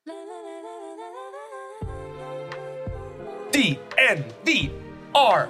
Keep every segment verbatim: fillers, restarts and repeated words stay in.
D N V R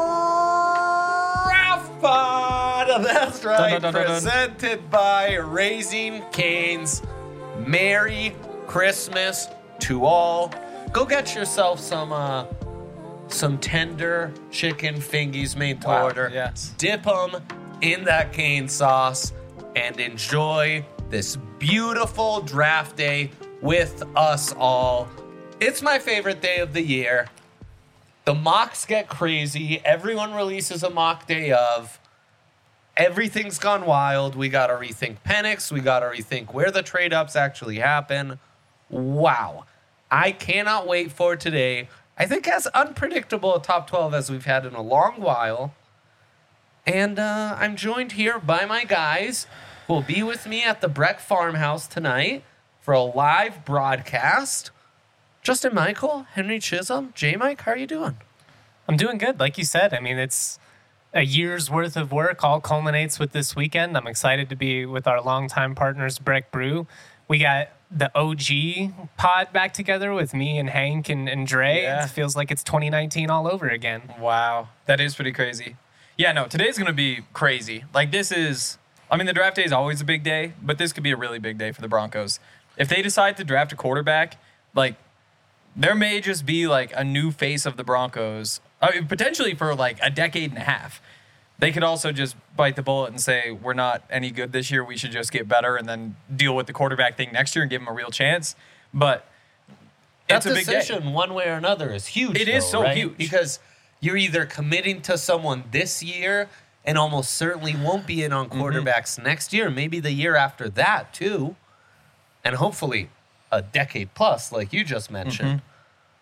Draft Pod. That's right. Dun, dun, dun, dun, dun. Presented by Raising Cane's. Merry Christmas to all. Go get yourself some uh, some tender chicken fingies made to Wow, order. yes. Dip them in that cane sauce and enjoy this beautiful draft day with us all. It's my favorite day of the year. The mocks get crazy. Everyone releases a mock day of. Everything's gone wild. We got to rethink Penix. We got to rethink where the trade ups actually happen. Wow. I cannot wait for today. I think as unpredictable a top twelve as we've had in a long while. And uh, I'm joined here by my guys who will be with me at the Breck Farmhouse tonight for a live broadcast. Justin Michael, Henry Chisholm, J Mike, how are you doing? I'm doing good. Like you said, I mean, it's a year's worth of work all culminates with this weekend. I'm excited to be with our longtime partners, Breck Brew. We got the O G pod back together with me and Hank and, and Dre. Yeah. It feels like it's twenty nineteen all over again. Wow, that is pretty crazy. Yeah, no, today's going to be crazy. Like, this is, I mean, the draft day is always a big day, but this could be a really big day for the Broncos. If they decide to draft a quarterback, like, there may just be, like, a new face of the Broncos, I mean, potentially for, like, a decade and a half. They could also just bite the bullet and say, we're not any good this year, we should just get better and then deal with the quarterback thing next year and give them a real chance. But That it's a big day. decision, one way or another, is huge. It is though, so right? huge. Because you're either committing to someone this year and almost certainly won't be in on quarterbacks Mm-hmm. next year, maybe the year after that too, and hopefully a decade plus, like you just mentioned. Mm-hmm.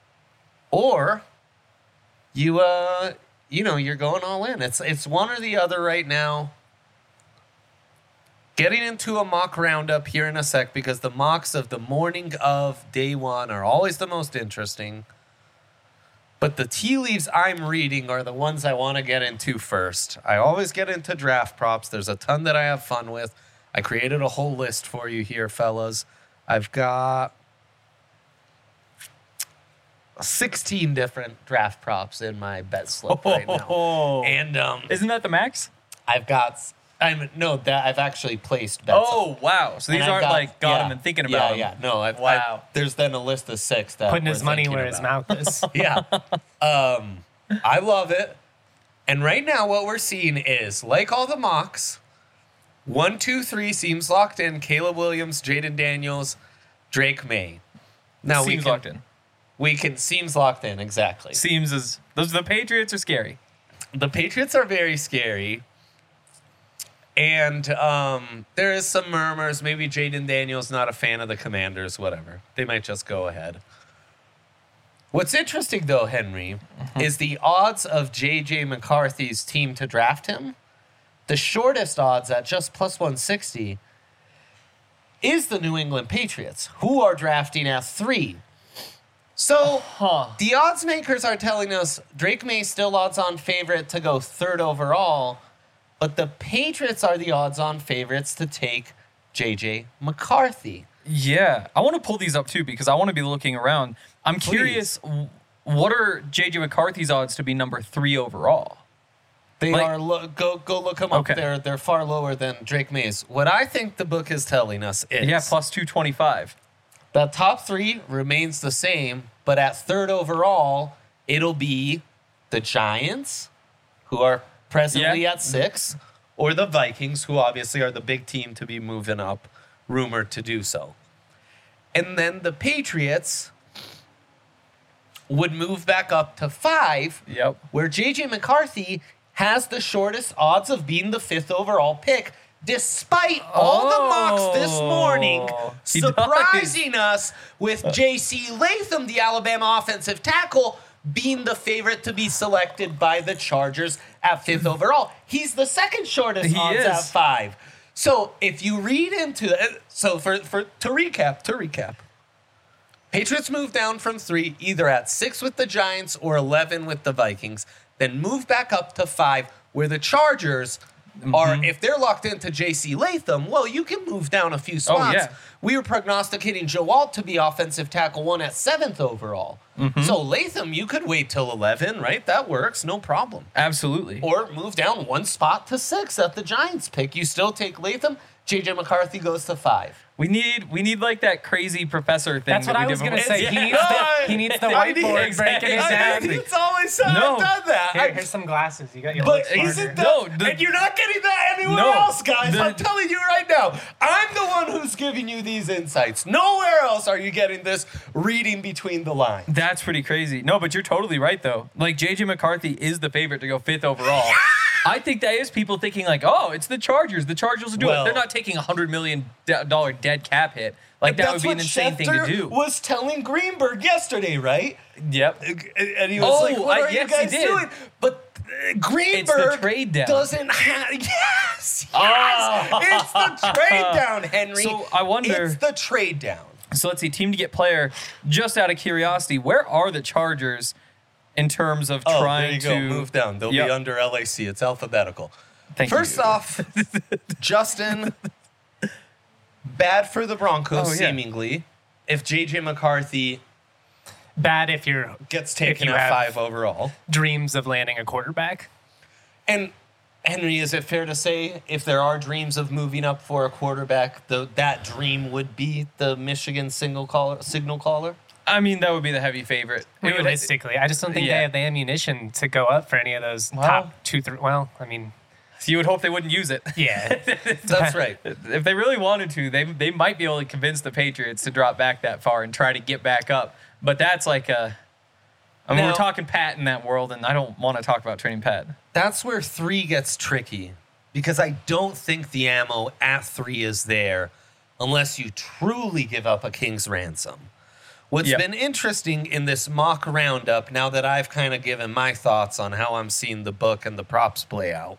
Or you, uh, you know, you're going all in. It's it's one or the other right now. Getting into a mock roundup here in a sec because the mocks of the morning of day one are always the most interesting. But the tea leaves I'm reading are the ones I want to get into first. I always get into draft props. There's a ton that I have fun with. I created a whole list for you here, fellas. I've got sixteen different draft props in my bet slip right now. Oh. And um, Isn't that the max? I've got, I'm no, that I've actually placed bets. Oh, wow. So these And I've aren't got- like got yeah, him and thinking yeah, about him. Yeah, no. I've, Wow. I've, there's then a list of six that Putting we're his money thinking where his about. mouth is. Yeah. Um, I love it. And right now what we're seeing is, like all the mocks, one, two, three seems locked in. Caleb Williams, Jaden Daniels, Drake May. Now we Seems can, locked in. We can, seems locked in, exactly. Seems as those the Patriots are scary. The Patriots are very scary. And um, there is some murmurs. Maybe Jaden Daniels not a fan of the Commanders, whatever. They might just go ahead. What's interesting, though, Henry, is the odds of J J McCarthy's team to draft him. The shortest odds at just plus one sixty is the New England Patriots, who are drafting at three. So the odds makers are telling us Drake May still odds-on favorite to go third overall, but the Patriots are the odds-on favorites to take J J McCarthy. Yeah, I want to pull these up too because I want to be looking around. I'm Please. curious, w- what are J J McCarthy's odds to be number three overall? They Like- are lo- go go look them up. Okay. They're they're far lower than Drake May's. What I think the book is telling us is Yeah, plus two twenty-five. the top three remains the same, but at third overall, it'll be the Giants, who are presently Yeah. at six, or the Vikings, who obviously are the big team to be moving up, rumored to do so. And then the Patriots would move back up to five, Yep. where J J McCarthy has the shortest odds of being the fifth overall pick, despite all the mocks this morning Oh, he surprising us with J C Latham, the Alabama offensive tackle, being the favorite to be selected by the Chargers at fifth overall. He's the second shortest He odds is. at five. So if you read into it, so for, for to recap, to recap, Patriots move down from three, either at six with the Giants or eleven with the Vikings, then move back up to five, where the Chargers are if they're locked into J C Latham, well, you can move down a few spots. yeah. We were prognosticating Joe Alt to be offensive tackle one at seventh overall. So Latham, you could wait till eleven, right? That works, no problem. Absolutely. Or move down one spot to six at the Giants pick. You still take Latham. J J McCarthy goes to five. We need we need like that crazy professor thing. That's that what we I was did going to before. say. Yeah. He needs the, he needs the I need- whiteboard exactly. breaking it I down. mean, it's always said No. I've done that. Here, I- here's some glasses. You got your But look isn't smarter. that, No, the- and you're not getting that anywhere No, else, guys. the- I'm telling you right now. I'm the one who's giving you these insights. Nowhere else are you getting this reading between the lines. That's pretty crazy. No, but you're totally right though. Like J J McCarthy is the favorite to go fifth overall. I think that is people thinking like, oh, it's the Chargers. The Chargers will do Well- it. They're not taking a hundred million dollar dead cap hit. Like that would That's be an what insane thing to Schefter do. was telling Greenberg yesterday, right? Yep. And he was Oh, like, "What I- are yes, you he guys did. doing?" But uh, Greenberg trade down. doesn't have. Yes, yes, Oh. it's the trade down, Henry. So, I wonder- It's the trade down. So let's see, team to get player. Just out of curiosity, where are the Chargers in terms of Oh, trying there you to go. Move down. They'll Yep. be under L A C. It's alphabetical. Thank First you. off, Justin, bad for the Broncos, Oh, yeah. seemingly. If J J McCarthy Bad if you're gets taken you at have- five overall. dreams of landing a quarterback. And Henry, is it fair to say if there are dreams of moving up for a quarterback, the, that dream would be the Michigan single caller, signal caller? I mean, that would be the heavy favorite. It would- Realistically, I just don't think Yeah. they have the ammunition to go up for any of those Well- top two, three. Well, I mean, you would hope they wouldn't use it. yeah. That's right. If they really wanted to, they they might be able to convince the Patriots to drop back that far and try to get back up. But that's like a. I mean, Now- we're talking Pat in that world, and I don't want to talk about training Pat. That's where three gets tricky because I don't think the ammo at three is there unless you truly give up a king's ransom. What's Yep. been interesting in this mock roundup, now that I've kind of given my thoughts on how I'm seeing the book and the props play out,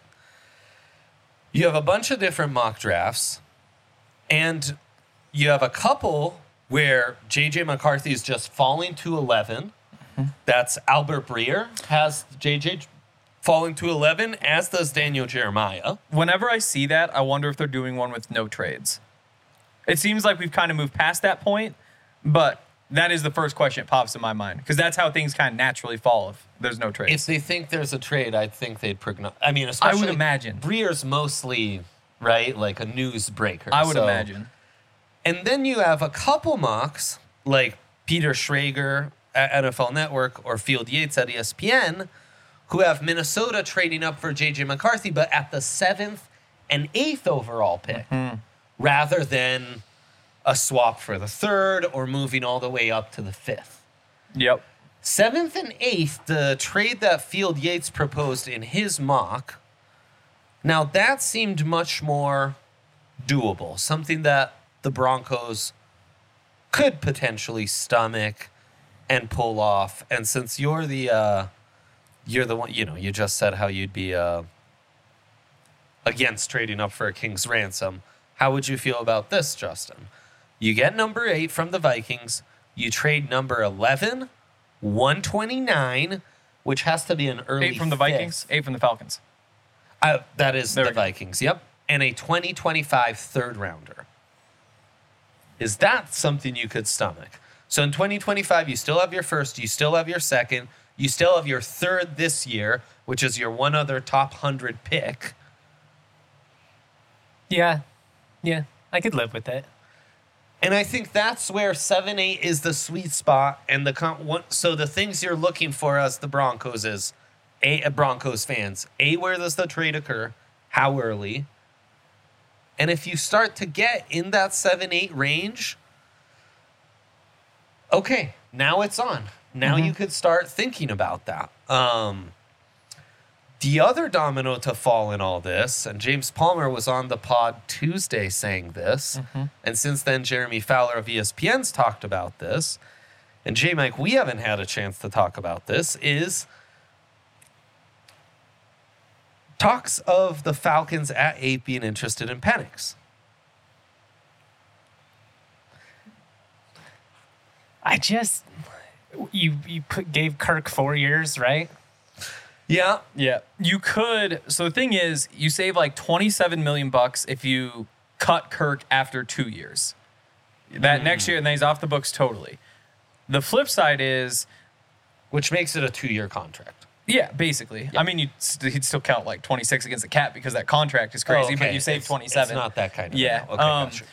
you have a bunch of different mock drafts, and you have a couple where J J McCarthy is just falling to eleven. That's Albert Breer has J J falling to eleven, as does Daniel Jeremiah. Whenever I see that, I wonder if they're doing one with no trades. It seems like we've kind of moved past that point, but that is the first question that pops in my mind because that's how things kind of naturally fall if there's no trades. If they think there's a trade, I think they'd progno- I mean, I especially would imagine. Breer's mostly, right, like a newsbreaker. I would so- imagine. And then you have a couple mocks, like Peter Schrager at N F L Network or Field Yates at E S P N, who have Minnesota trading up for J J McCarthy, but at the seventh and eighth overall pick, rather than a swap for the third or moving all the way up to the fifth. Yep. Seventh and eighth, the trade that Field Yates proposed in his mock, now that seemed much more doable, something that the Broncos could potentially stomach and pull off. And since you're the uh, you're the one, you know, you just said how you'd be uh, against trading up for a king's ransom. How would you feel about this, Justin? You get number eight from the Vikings. You trade number eleven, one twenty-nine, which has to be an early Eight from the fifth. Vikings, eight from the Falcons. Uh, that is There the we go. Vikings, yep. And a twenty twenty-five third rounder. Is that something you could stomach? So in twenty twenty-five, you still have your first, you still have your second, you still have your third this year, which is your one other top one hundred pick. Yeah. Yeah. I could live with it. And I think that's where seven eight is the sweet spot. And the con- one, so the things you're looking for as the Broncos is, A, Broncos fans, A, where does the trade occur? How early? And if you start to get in that seven eight range, okay, now it's on. Now you could start thinking about that. Um, the other domino to fall in all this, and James Palmer was on the pod Tuesday saying this, and since then Jeremy Fowler of E S P N's talked about this, and J Mike, we haven't had a chance to talk about this, is talks of the Falcons at eight being interested in Penix. I just you you put, gave Kirk four years, right? Yeah. Yeah. You could. So the thing is, you save like twenty-seven million bucks if you cut Kirk after two years. That mm. next year, and then he's off the books totally. The flip side is, which makes it a two-year contract. Yeah, basically. Yeah. I mean, you'd, st- he'd still count like twenty-six against the cap because that contract is crazy, oh, okay. but you save it's, twenty-seven. It's not that kind of yeah. Okay, um, gotcha.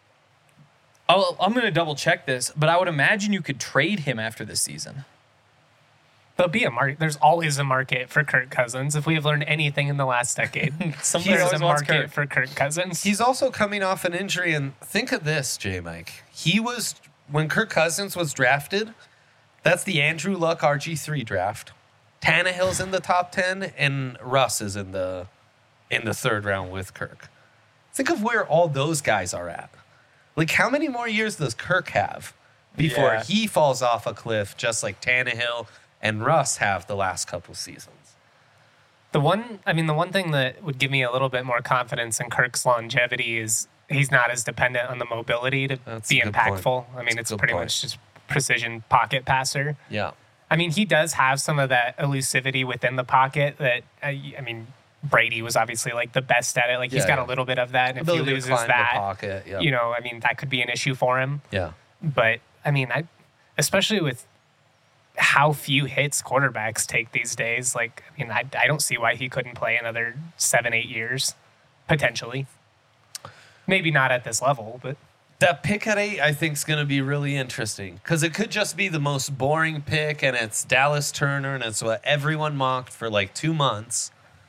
I'll, I'm going to double check this, but I would imagine you could trade him after this season. There'll be a market. There's always a market for Kirk Cousins. If we have learned anything in the last decade, Somebody there's a market Kirk. for Kirk Cousins. He's also coming off an injury, and think of this, J. Mike. He was when Kirk Cousins was drafted. That's the Andrew Luck R G three draft. Tannehill's in the top ten, and Russ is in the in the third round with Kirk. Think of where all those guys are at. Like, how many more years does Kirk have before Yeah. he falls off a cliff, just like Tannehill and Russ have the last couple seasons? The one, I mean, the one thing that would give me a little bit more confidence in Kirk's longevity is he's not as dependent on the mobility to That's be a good impactful. point. I mean, That's it's a good pretty point. much just precision pocket passer. Yeah. I mean, he does have some of that elusivity within the pocket that, I, I mean, Brady was obviously like the best at it. Like, he's Yeah, got yeah. a little bit of that. And if he Ability to loses climb that, the pocket. Yeah. you know, I mean, that could be an issue for him. Yeah. But, I mean, I, especially with how few hits quarterbacks take these days, like, I mean, I, I don't see why he couldn't play another seven, eight years, potentially. Maybe not at this level, but... That pick at eight, I think, is going to be really interesting because it could just be the most boring pick, and it's Dallas Turner, and it's what everyone mocked for like two months.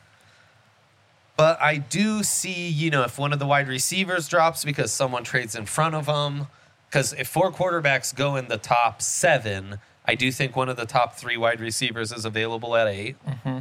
But I do see, you know, if one of the wide receivers drops because someone trades in front of them, because if four quarterbacks go in the top seven, I do think one of the top three wide receivers is available at eight. Mm-hmm.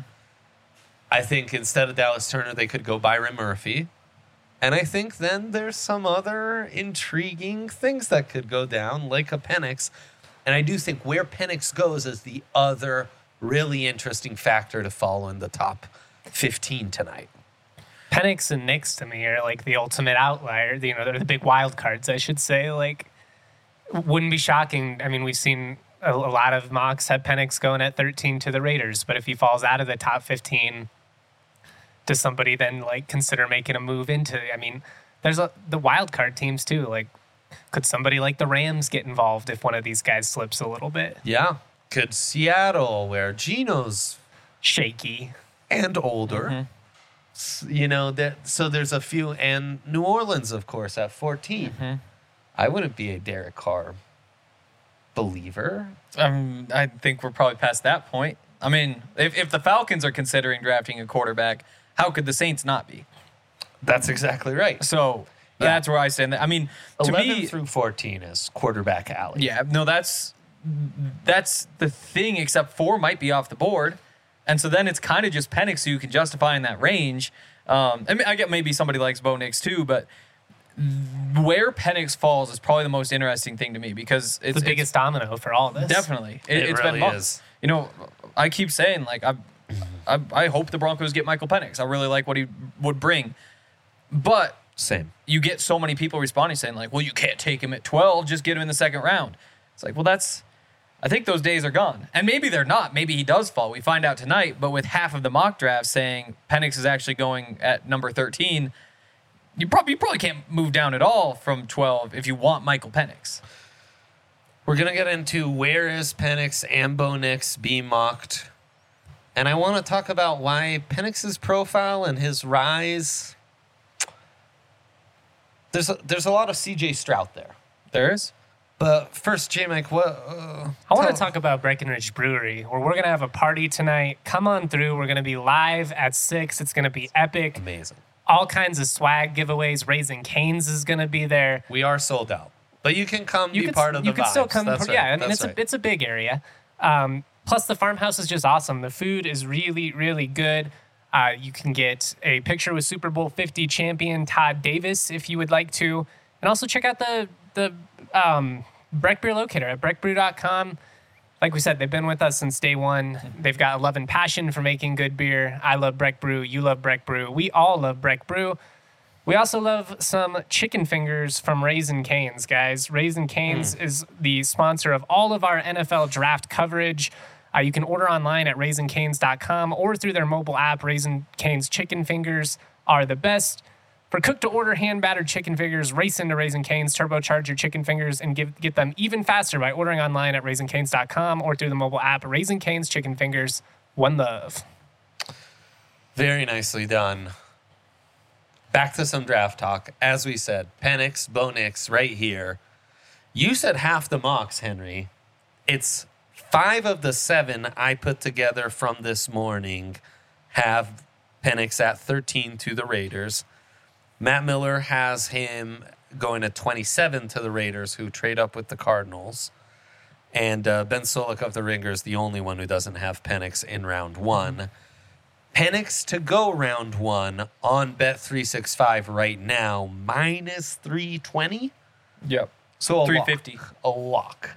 I think instead of Dallas Turner, they could go Byron Murphy. And I think then there's some other intriguing things that could go down, like a Penix. And I do think where Penix goes is the other really interesting factor to follow in the top fifteen tonight. Penix and Knicks to me are like the ultimate outlier. You know, they're the big wild cards, I should say. Like, wouldn't be shocking. I mean, we've seen a, a lot of mocks have Penix going at thirteen to the Raiders, but if he falls out of the top fifteen, does somebody then like consider making a move into? I mean, there's a, the wild card teams too. Like, could somebody like the Rams get involved if one of these guys slips a little bit? Yeah. Could Seattle, where Geno's Shaky. and older, Mm-hmm. s- you know, that so there's a few, and New Orleans, of course, at fourteen. Mm-hmm. I wouldn't be a Derek Carr believer. Um, I think we're probably past that point. I mean, if, if the Falcons are considering drafting a quarterback, how could the Saints not be? That's exactly right. So Yeah. that's where I stand. I mean, to eleven me, through fourteen is quarterback alley. yeah, no, that's that's the thing. Except four might be off the board, and so then it's kind of just Penix who you can justify in that range. Um, I mean, I get maybe somebody likes Bo Nix too, but where Penix falls is probably the most interesting thing to me because it's the biggest domino for all this. Definitely, it, It it's really been months. is. You know, I keep saying like I, I, I hope the Broncos get Michael Penix. I really like what he would bring, but Same. you get so many people responding saying like, well, you can't take him at twelve, just get him in the second round. It's like, well, that's, I think those days are gone. And maybe they're not. Maybe he does fall. We find out tonight, but with half of the mock drafts saying Penix is actually going at number thirteen, you probably, you probably can't move down at all from twelve if you want Michael Penix. We're going to get into where is Penix and Bo Nix being mocked. And I want to talk about why Penix's profile and his rise. There's a, there's a lot of C J Stroud there. There is. But first, J. Mike, what? Uh, I want to tell- talk about Breckenridge Brewery, where we're going to have a party tonight. Come on through. We're going to be live at six. It's going to be epic. Amazing. All kinds of swag giveaways. Raising Cane's is going to be there. We are sold out. But you can come You be could, part of the you could still vibes. come. That's yeah, right. I mean, That's it's right. a it's a big area. Um, plus, the farmhouse is just awesome. The food is really, really good. Uh, you can get a picture with Super Bowl fifty champion Todd Davis if you would like to. And also check out the the um, Breck Beer Locator at breck brew dot com. Like we said, they've been with us since day one. They've got a love and passion for making good beer. I love Breck Brew. You love Breck Brew. We all love Breck Brew. We also love some chicken fingers from Raisin Cane's, guys. Raisin Cane's Hmm. is the sponsor of all of our N F L draft coverage. Uh, you can order online at raising canes dot com or through their mobile app. Raising Cane's chicken fingers are the best. For cooked-to-order hand-battered chicken fingers, race into Raising Cane's, turbocharge your chicken fingers, and give, get them even faster by ordering online at raising canes dot com or through the mobile app. Raising Cane's chicken fingers, one love. Very nicely done. Back to some draft talk. As we said, Penix, Bo Nix right here. You said half the mocks, Henry. It's five of the seven I put together from this morning have Penix at thirteen to the Raiders. Matt Miller has him going to twenty-seven to the Raiders, who trade up with the Cardinals. And uh, Ben Solik of the Ringer is the only one who doesn't have Penix in round one. Penix to go round one on Bet three sixty-five right now, minus three twenty. Yep. So a three fifty. lock. A lock.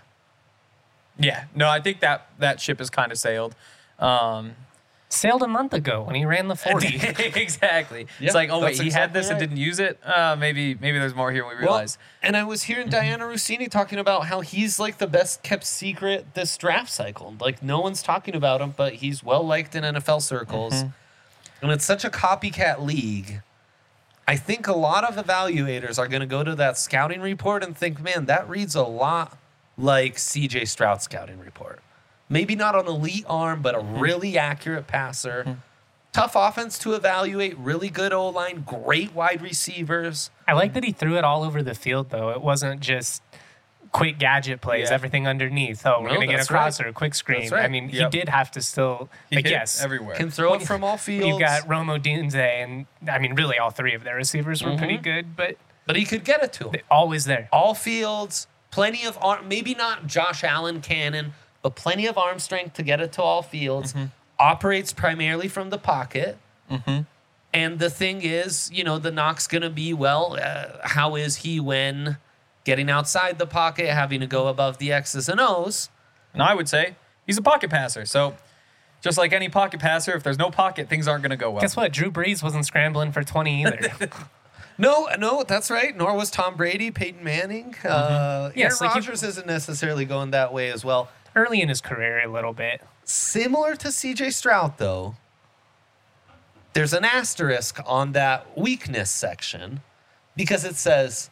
Yeah. No, I think that that ship has kind of sailed. Um, Sailed a month ago when he ran the forty. exactly. Yeah, it's like, oh wait, that's he had exactly this and right. didn't use it. Uh, maybe maybe there's more here than we Well, realize. and I was hearing Diana Rossini talking about how he's like the best kept secret this draft cycle. Like no one's talking about him, but he's well liked in N F L circles. Mm-hmm. And it's such a copycat league. I think a lot of evaluators are going to go to that scouting report and think, man, that reads a lot like C J Stroud's scouting report. Maybe not an elite arm, but a really accurate passer. Mm-hmm. Tough offense to evaluate, really good O-line, great wide receivers. I like that he threw it all over the field, though. It wasn't just quick gadget plays, Yeah. everything underneath. Oh, we're No, going to get a that's right. crosser, a quick screen. That's right. I mean, Yep. he did have to still, He like, hit yes. everywhere. Can throw it from all fields. You got Romo Dunze, and I mean, really, all three of their receivers were pretty good, but But he could get it to him. they- always there. All fields, plenty of arm, maybe not Josh Allen cannon, but plenty of arm strength to get it to all fields. Operates primarily from the pocket. And the thing is, you know, the knock's going to be, well, uh, how is he when getting outside the pocket, having to go above the X's and O's? And I would say he's a pocket passer. So just like any pocket passer, if there's no pocket, things aren't going to go well. Guess what? Drew Brees wasn't scrambling for twenty either. No, no, that's right. Nor was Tom Brady, Peyton Manning. Uh, Yes, Aaron like you- Rodgers isn't necessarily going that way as well. Early in his career, a little bit. Similar to C J Stroud, though, there's an asterisk on that weakness section because it says,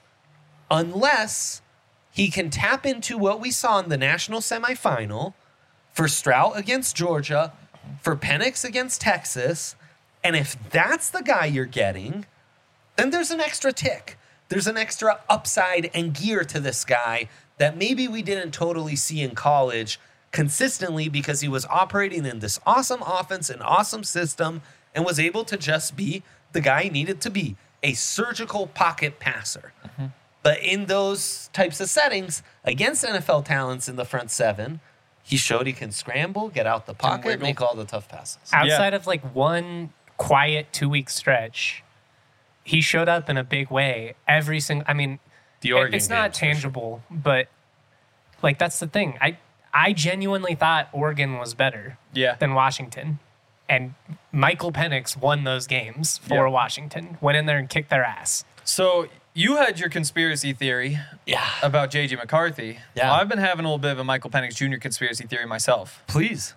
unless he can tap into what we saw in the national semifinal for Stroud against Georgia, for Penix against Texas, and if that's the guy you're getting, then there's an extra tick. There's an extra upside and gear to this guy that maybe we didn't totally see in college consistently because he was operating in this awesome offense and awesome system and was able to just be the guy he needed to be, a surgical pocket passer. But in those types of settings, against N F L talents in the front seven, he showed he can scramble, get out the pocket, wiggle. make all the tough passes. Outside of like one quiet two week stretch, he showed up in a big way every single. I mean, The it- Oregon it's not games, for sure. tangible, but like that's the thing. I I genuinely thought Oregon was better Yeah. than Washington, and Michael Penix won those games for Yeah. Washington. Went in there and kicked their ass. So you had your conspiracy theory Yeah. about J J McCarthy. Yeah. I've been having a little bit of a Michael Penix Junior conspiracy theory myself. Please.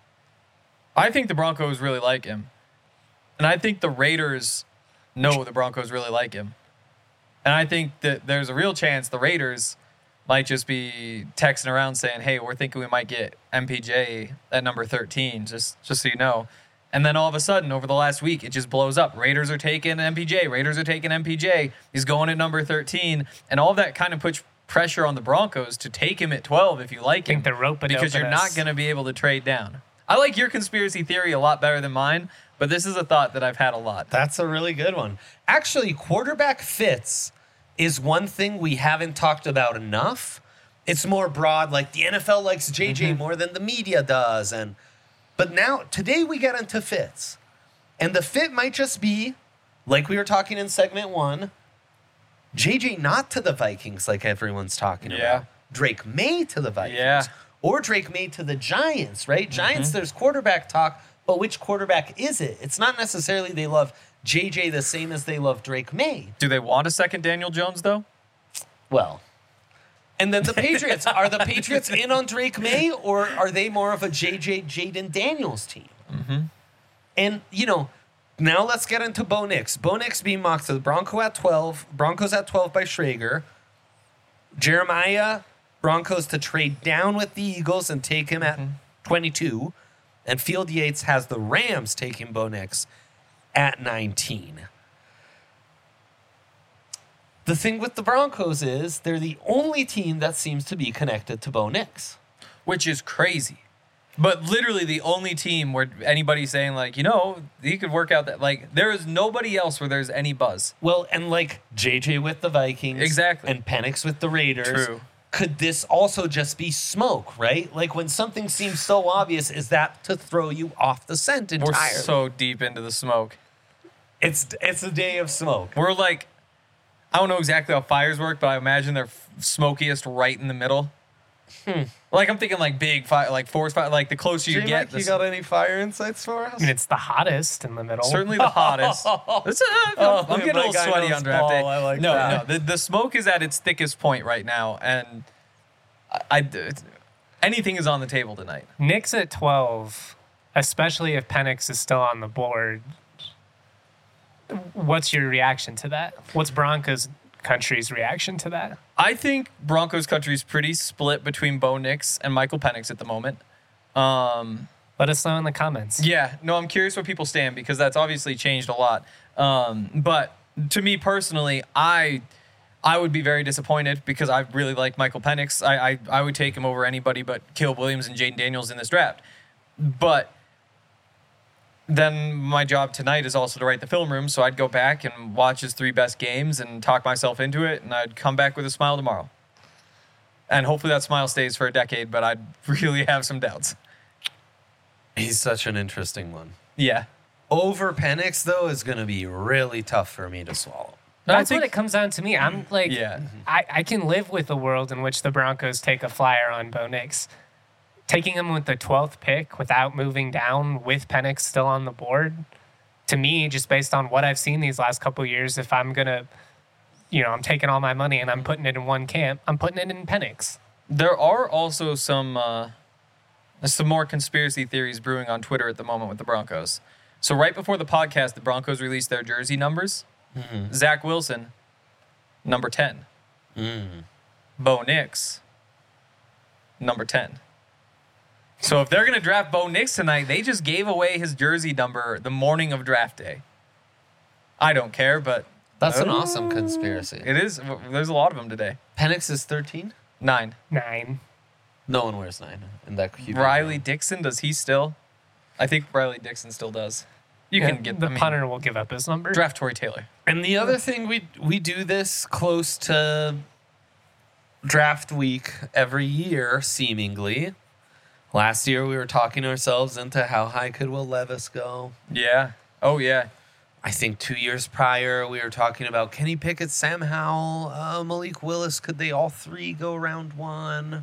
I think the Broncos really like him. And I think the Raiders know the Broncos really like him. And I think that there's a real chance the Raiders might just be texting around saying, hey, we're thinking we might get M P J at number thirteen, just, just so you know. And then all of a sudden, over the last week, it just blows up. Raiders are taking M P J. Raiders are taking M P J. He's going at number thirteen. And all of that kind of puts pressure on the Broncos to take him at twelve if you like Think him. they're roping Because you're not going to be able to trade down. I like your conspiracy theory a lot better than mine, but this is a thought that I've had a lot. That's a really good one. Actually, quarterback fits is one thing we haven't talked about enough. It's more broad, like the N F L likes J J more than the media does. And but now today we get into fits. And the fit might just be, like we were talking in segment one, J J not to the Vikings like everyone's talking Yeah. about. Drake May to the Vikings. Yeah. Or Drake May to the Giants, right? Giants, there's quarterback talk, but which quarterback is it? It's not necessarily they love J J the same as they love Drake May. Do they want a second Daniel Jones, though? Well, And then the Patriots. Are the Patriots in on Drake May, or are they more of a J J Jaden Daniels team? Mm-hmm. And, you know, now let's get into Bo Nix. Bo Nix being mocked to the Bronco at twelve. Broncos at twelve by Schrager. Jeremiah, Broncos to trade down with the Eagles and take him at mm-hmm. twenty-two. And Field Yates has the Rams taking Bo Nix at nineteen. The thing with the Broncos is they're the only team that seems to be connected to Bo Nix. Which is crazy. But literally the only team where anybody's saying, like, you know, he could work out that. Like, there is nobody else where there's any buzz. Well, and like J J with the Vikings. Exactly. And Penix with the Raiders. True. Could this also just be smoke, right? Like when something seems so obvious, is that to throw you off the scent entirely? We're so deep into the smoke. It's it's a day of smoke. We're like, I don't know exactly how fires work, but I imagine they're f- smokiest right in the middle. Hmm. Like I'm thinking like big fire, like forest fire, like the closer you J-Mac, get. You got any fire insights for us? I mean, it's the hottest in the middle. Certainly the hottest. It's, uh, Oh, I'm getting a my little guy sweaty knows on draft ball. day. I like no, that. no, the, the smoke is at its thickest point right now, and I, I anything is on the table tonight. Knicks at twelve, especially if Penix is still on the board. What's your reaction to that? What's Broncos country's reaction to that? I think Broncos country is pretty split between Bo Nix and Michael Penix at the moment. Um, Let us know in the comments. yeah, no, I'm curious where people stand because that's obviously changed a lot. Um, but to me personally, I I would be very disappointed because I really like Michael Penix. I, I, I would take him over anybody but Caleb Williams and Jaden Daniels in this draft. But then my job tonight is also to write the film room, so I'd go back and watch his three best games and talk myself into it, and I'd come back with a smile tomorrow. And hopefully that smile stays for a decade, but I'd really have some doubts. He's such an interesting one. Yeah. Over Penix, though, is going to be really tough for me to swallow. That's I think- what it comes down to me. I'm like, Yeah. I, I can live with a world in which the Broncos take a flyer on Bo Nix. Taking him with the twelfth pick without moving down with Penix still on the board, to me, just based on what I've seen these last couple of years, if I'm going to, you know, I'm taking all my money and I'm putting it in one camp, I'm putting it in Penix. There are also some uh, some more conspiracy theories brewing on Twitter at the moment with the Broncos. So right before the podcast, the Broncos released their jersey numbers. Mm-hmm. Zach Wilson, number ten. Mm. Bo Nix, number ten. So if they're going to draft Bo Nix tonight, they just gave away his jersey number the morning of draft day. I don't care, but That's an awesome conspiracy. it is. There's a lot of them today. Penix is thirteen? Nine. Nine. No one wears nine in that Q B. Riley Dixon, does he still? I think Riley Dixon still does. You Yeah, can get the I mean, punter will give up his number. draft Tory Taylor. And the other thing, we we do this close to draft week every year, seemingly. Last year, we were talking ourselves into how high could Will Levis go. Yeah. Oh, yeah. I think two years prior, we were talking about Kenny Pickett, Sam Howell, uh, Malik Willis. Could they all three go round one?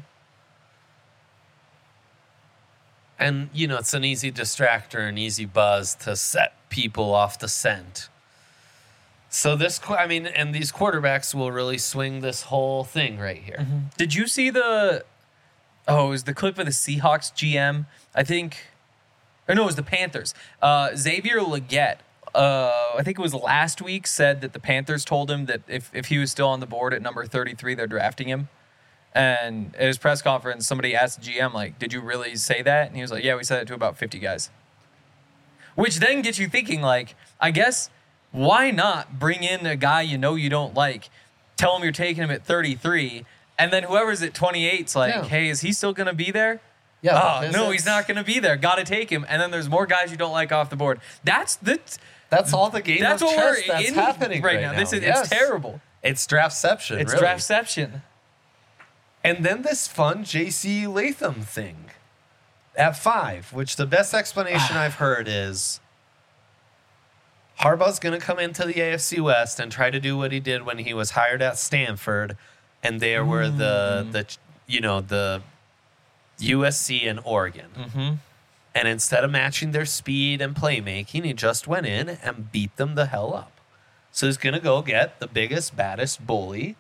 And, you know, it's an easy distractor, an easy buzz to set people off the scent. So this, qu- I mean, and these quarterbacks will really swing this whole thing right here. Mm-hmm. Did you see the... Oh, it was the clip of the Seahawks G M. I think... Or no, it was the Panthers. Uh, Xavier Legette, uh, I think it was last week, said that the Panthers told him that if, if he was still on the board at number thirty-three, they're drafting him. And at his press conference, somebody asked the G M, like, did you really say that? And he was like, yeah, we said it to about fifty guys. Which then gets you thinking, like, I guess, why not bring in a guy you know you don't like, tell him you're taking him at thirty-three, and then whoever's at twenty-eight's like, Yeah. hey, is he still going to be there? Yeah. Oh, because no, it's- he's not going to be there. Got to take him. And then there's more guys you don't like off the board. That's the... That's all the game That's of what chess we're that's in happening right, right now. now. This is Yes. It's terrible. It's draftception, It's really. draftception. And then this fun J C Latham thing at five, which the best explanation I've heard is Harbaugh's going to come into the A F C West and try to do what he did when he was hired at Stanford, and there were Mm. the the you know the U S C and Oregon. Mm-hmm. And instead of matching their speed and playmaking, he just went in and beat them the hell up. So he's going to go get the biggest, baddest bully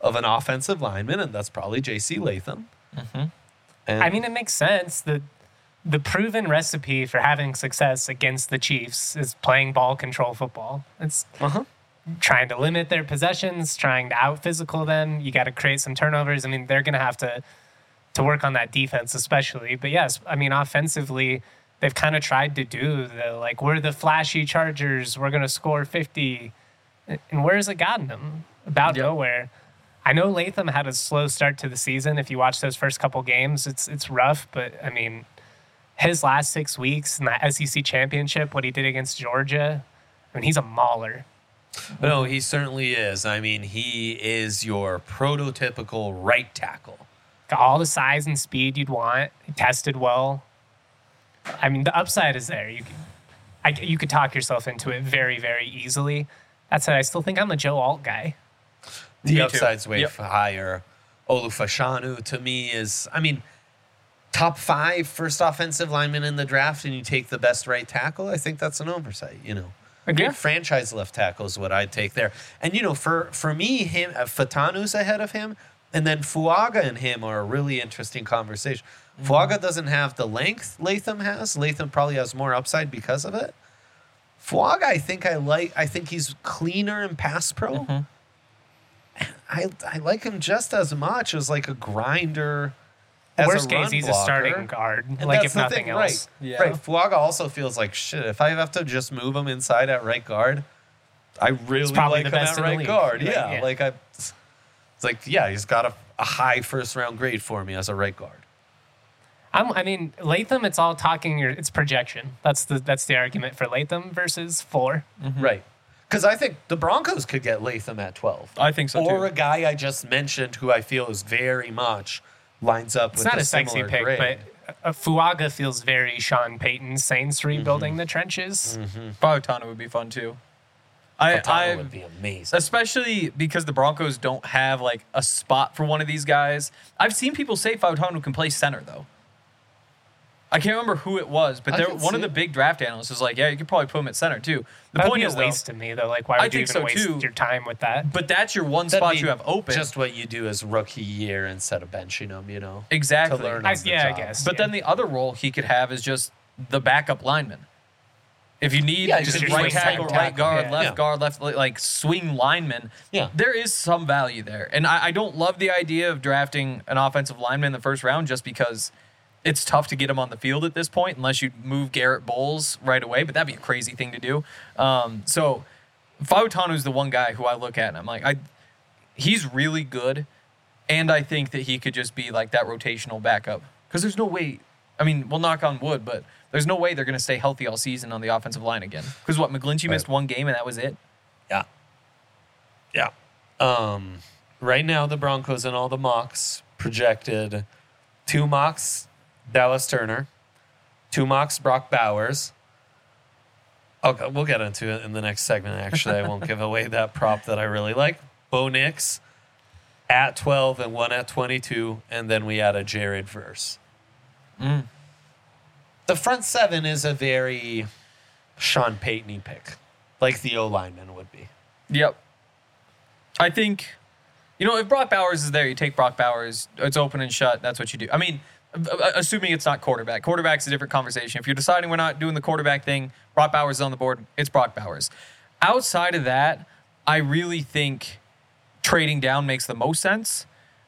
of an offensive lineman, and that's probably J C Latham. Mm-hmm. And I mean, it makes sense. The the proven recipe for having success against the Chiefs is playing ball control football. It's uh-huh. trying to limit their possessions, trying to out physical them. You got to create some turnovers. I mean, they're going to have to to work on that defense, especially. But yes, I mean, offensively, they've kind of tried to do the like we're the flashy Chargers. We're going to score fifty, and where has it gotten them? About Yep. nowhere. I know Latham had a slow start to the season. If you watch those first couple games, it's it's rough. But I mean, his last six weeks in that S E C championship, what he did against Georgia, I mean, he's a mauler. No, he certainly is. I mean, he is your prototypical right tackle. Got all the size and speed you'd want. He tested well. I mean, the upside is there. You could, I, you could talk yourself into it very, very easily. That said, I still think I'm a Joe Alt guy. The Me too. upside's way Yep. higher. Olufashanu, to me, is, I mean, top five first offensive lineman in the draft, and you take the best right tackle. I think that's an oversight, you know. A Yeah. good franchise left tackle is what I'd take there. And, you know, for, for me, him, uh, Fatanu's ahead of him, and then Fuaga and him are a really interesting conversation. Mm-hmm. Fuaga doesn't have the length Latham has. Latham probably has more upside because of it. Fuaga, I think I like. I think he's cleaner in pass pro. Mm-hmm. I I like him just as much as like a grinder. As Worst a case, run he's blocker. a starting guard, And like that's if the nothing thing, else. Right. Yeah. Right. Fuaga also feels like shit. If I have to just move him inside at right guard, I really probably like the him best at in the right league. guard. Right, Yeah. yeah. Like I, it's like yeah, he's got a, a high first round grade for me as a right guard. I'm, I mean, Latham. It's all talking. Your, it's projection. That's the that's the argument for Latham versus Fuller. Right. Because I think the Broncos could get Latham at twelve. I think so, Or too. a guy I just mentioned who I feel is very much lines up It's with not a a sexy similar pick, grade. but uh, Fuaga feels very Sean Payton Saints rebuilding Mm-hmm. the trenches. Fautanu would be fun too. I, Fatano I would be amazing. especially because the Broncos don't have like a spot for one of these guys. I've seen people say Fautanu can play center though. I can't remember who it was, but I there, can one see of the it. big draft analysts was like, "Yeah, you could probably put him at center too." The That would point be a is, waste though, to me, though. Like, why I would you think even so, waste too. your time with that? but that's your one That'd spot be you have open. Just what you do as rookie year instead of benching him, you know. exactly. To learn I, on the yeah, I job. guess. But yeah. then the other role he could have is just the backup lineman. If you need Yeah, just just right swing tackle, tackle, right guard, yeah. left Yeah. guard, left like swing lineman, Yeah. there is some value there. And I, I don't love the idea of drafting an offensive lineman in the first round just because it's tough to get him on the field at this point unless you move Garrett Bowles right away. But that'd be a crazy thing to do. Um, so Fautanu's the one guy who I look at and I'm like, I he's really good, and I think that he could just be like that rotational backup because there's no way. I mean, we'll knock on wood, but there's no way they're going to stay healthy all season on the offensive line again. Because what, McGlinchey missed one game and that was it? Yeah. Yeah. Um, right now, the Broncos and all the mocks projected two mocks, Dallas Turner, two mocks, Brock Bowers. Okay, we'll get into it in the next segment, actually. I won't give away that prop that I really like. Bo Nix at twelve and one at twenty-two, and then we add a Jared Verse. Mm. The front seven is a very Sean Payton pick, like the O lineman would be. Yep. I think, you know, if Brock Bowers is there, you take Brock Bowers. It's open and shut. That's what you do. I mean, assuming it's not quarterback. Quarterback's a different conversation. If you're deciding we're not doing the quarterback thing, Brock Bowers is on the board, it's Brock Bowers. Outside of that, I really think trading down makes the most sense.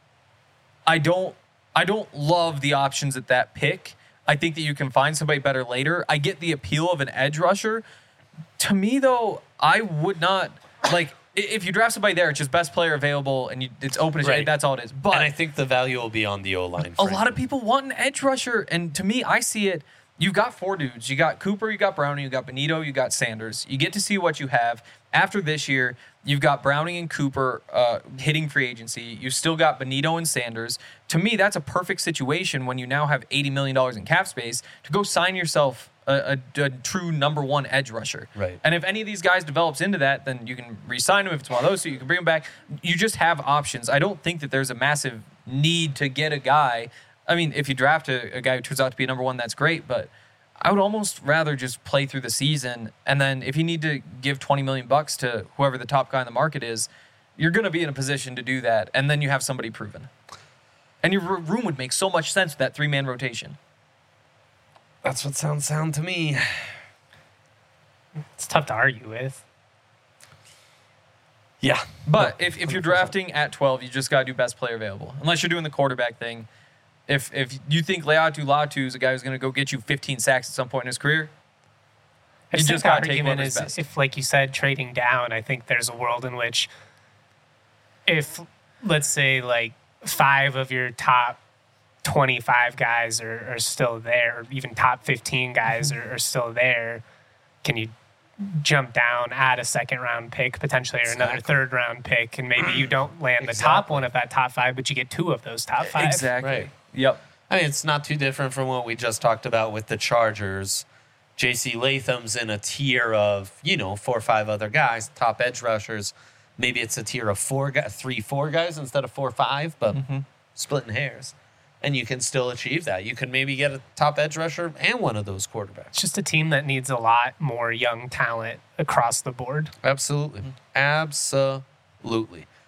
I don't I don't love the options at that pick. I think that you can find somebody better later. I get the appeal of an edge rusher. To me, though, I would not like i- if you draft somebody there. It's just best player available, and you, it's open. As Right. That's all it is. But And I think the value will be on the O line. a lot of people want an edge rusher, and to me, I see it. You've got four dudes. You got Cooper, you got Browning, you got Benito, you got Sanders. You get to see what you have. After this year, you've got Browning and Cooper uh, hitting free agency. You've still got Benito and Sanders. To me, that's a perfect situation when you now have eighty million dollars in cap space to go sign yourself a, a, a true number one edge rusher. Right. And if any of these guys develops into that, then you can re-sign them. If it's one of those, so you can bring them back. You just have options. I don't think that there's a massive need to get a guy. I mean, if you draft a, a guy who turns out to be a number one, that's great. But I would almost rather just play through the season, and then if you need to give twenty million bucks to whoever the top guy in the market is, You're going to be in a position to do that, and then you have somebody proven. And your r- room would make so much sense with that three-man rotation. That's what sounds sound to me. It's tough to argue with. Yeah. But if, if you're drafting at twelve, you just got to do best player available. Unless you're doing the quarterback thing. If if you think Leatu Latu is a guy who's going to go get you fifteen sacks at some point in his career, I you think just the got to take argument whoever's is best. if, like you said, trading down, I think there's a world in which if, let's say, like five of your top twenty-five guys are, are still there, or even top fifteen guys are, are still there, can you jump down, add a second round pick potentially, or another Exactly. third round pick, and maybe you don't land the Exactly. top one of that top five, but you get two of those top five. Exactly. Right. Yep. I mean, it's not too different from what we just talked about with the Chargers. J C Latham's in a tier of, you know, four or five other guys, top edge rushers. Maybe it's a tier of four, gu- three, four guys instead of four, five, but splitting hairs. And you can still achieve that. You can maybe get a top edge rusher and one of those quarterbacks. It's just a team that needs a lot more young talent across the board. Absolutely. Absolutely.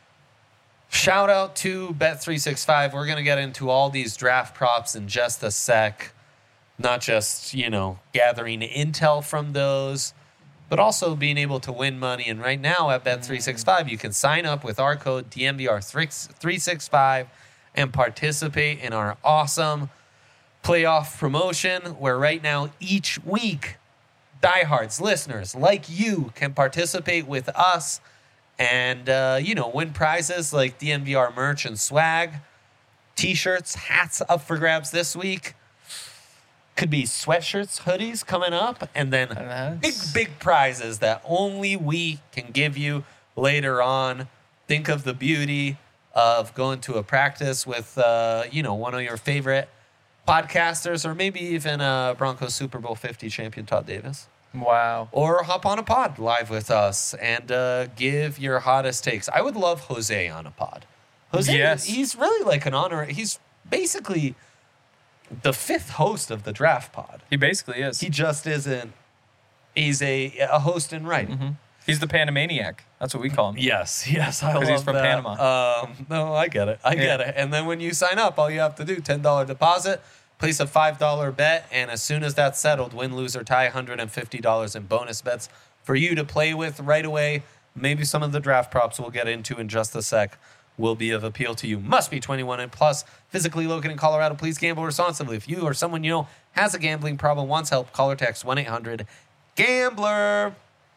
Shout out to Bet three sixty-five. We're going to get into all these draft props in just a sec. Not just, you know, gathering intel from those, but also being able to win money. And right now at Bet three sixty-five, you can sign up with our code D M V R three sixty-five and participate in our awesome playoff promotion where right now each week diehards, listeners like you can participate with us and, uh, you know, win prizes like D M V R merch and swag, T-shirts, hats up for grabs this week. Could be sweatshirts, hoodies coming up, and then And big, that's- big prizes that only we can give you later on. Think of the beauty of going to a practice with, uh, you know, one of your favorite podcasters, or maybe even uh, Broncos Super Bowl fifty champion Todd Davis. Wow. Or hop on a pod live with us and uh, give your hottest takes. I would love Jose on a pod. Jose, Yes. he's really like an honor. He's basically the fifth host of the draft pod. He basically is. He just isn't. He's a a host in right. He's the Panamaniac. That's what we call him. Yes, yes, I 'Cause love he's from that. Panama. Um, no, I get it. I get Yeah. it. And then when you sign up, all you have to do ten dollar deposit, place a five dollar bet, and as soon as that's settled, win, lose, or tie, one hundred fifty dollars in bonus bets for you to play with right away. Maybe some of the draft props we'll get into in just a sec will be of appeal to you. Must be twenty-one and plus, physically located in Colorado. Please gamble responsibly. If you or someone you know has a gambling problem, wants help, call or text one eight hundred gambler.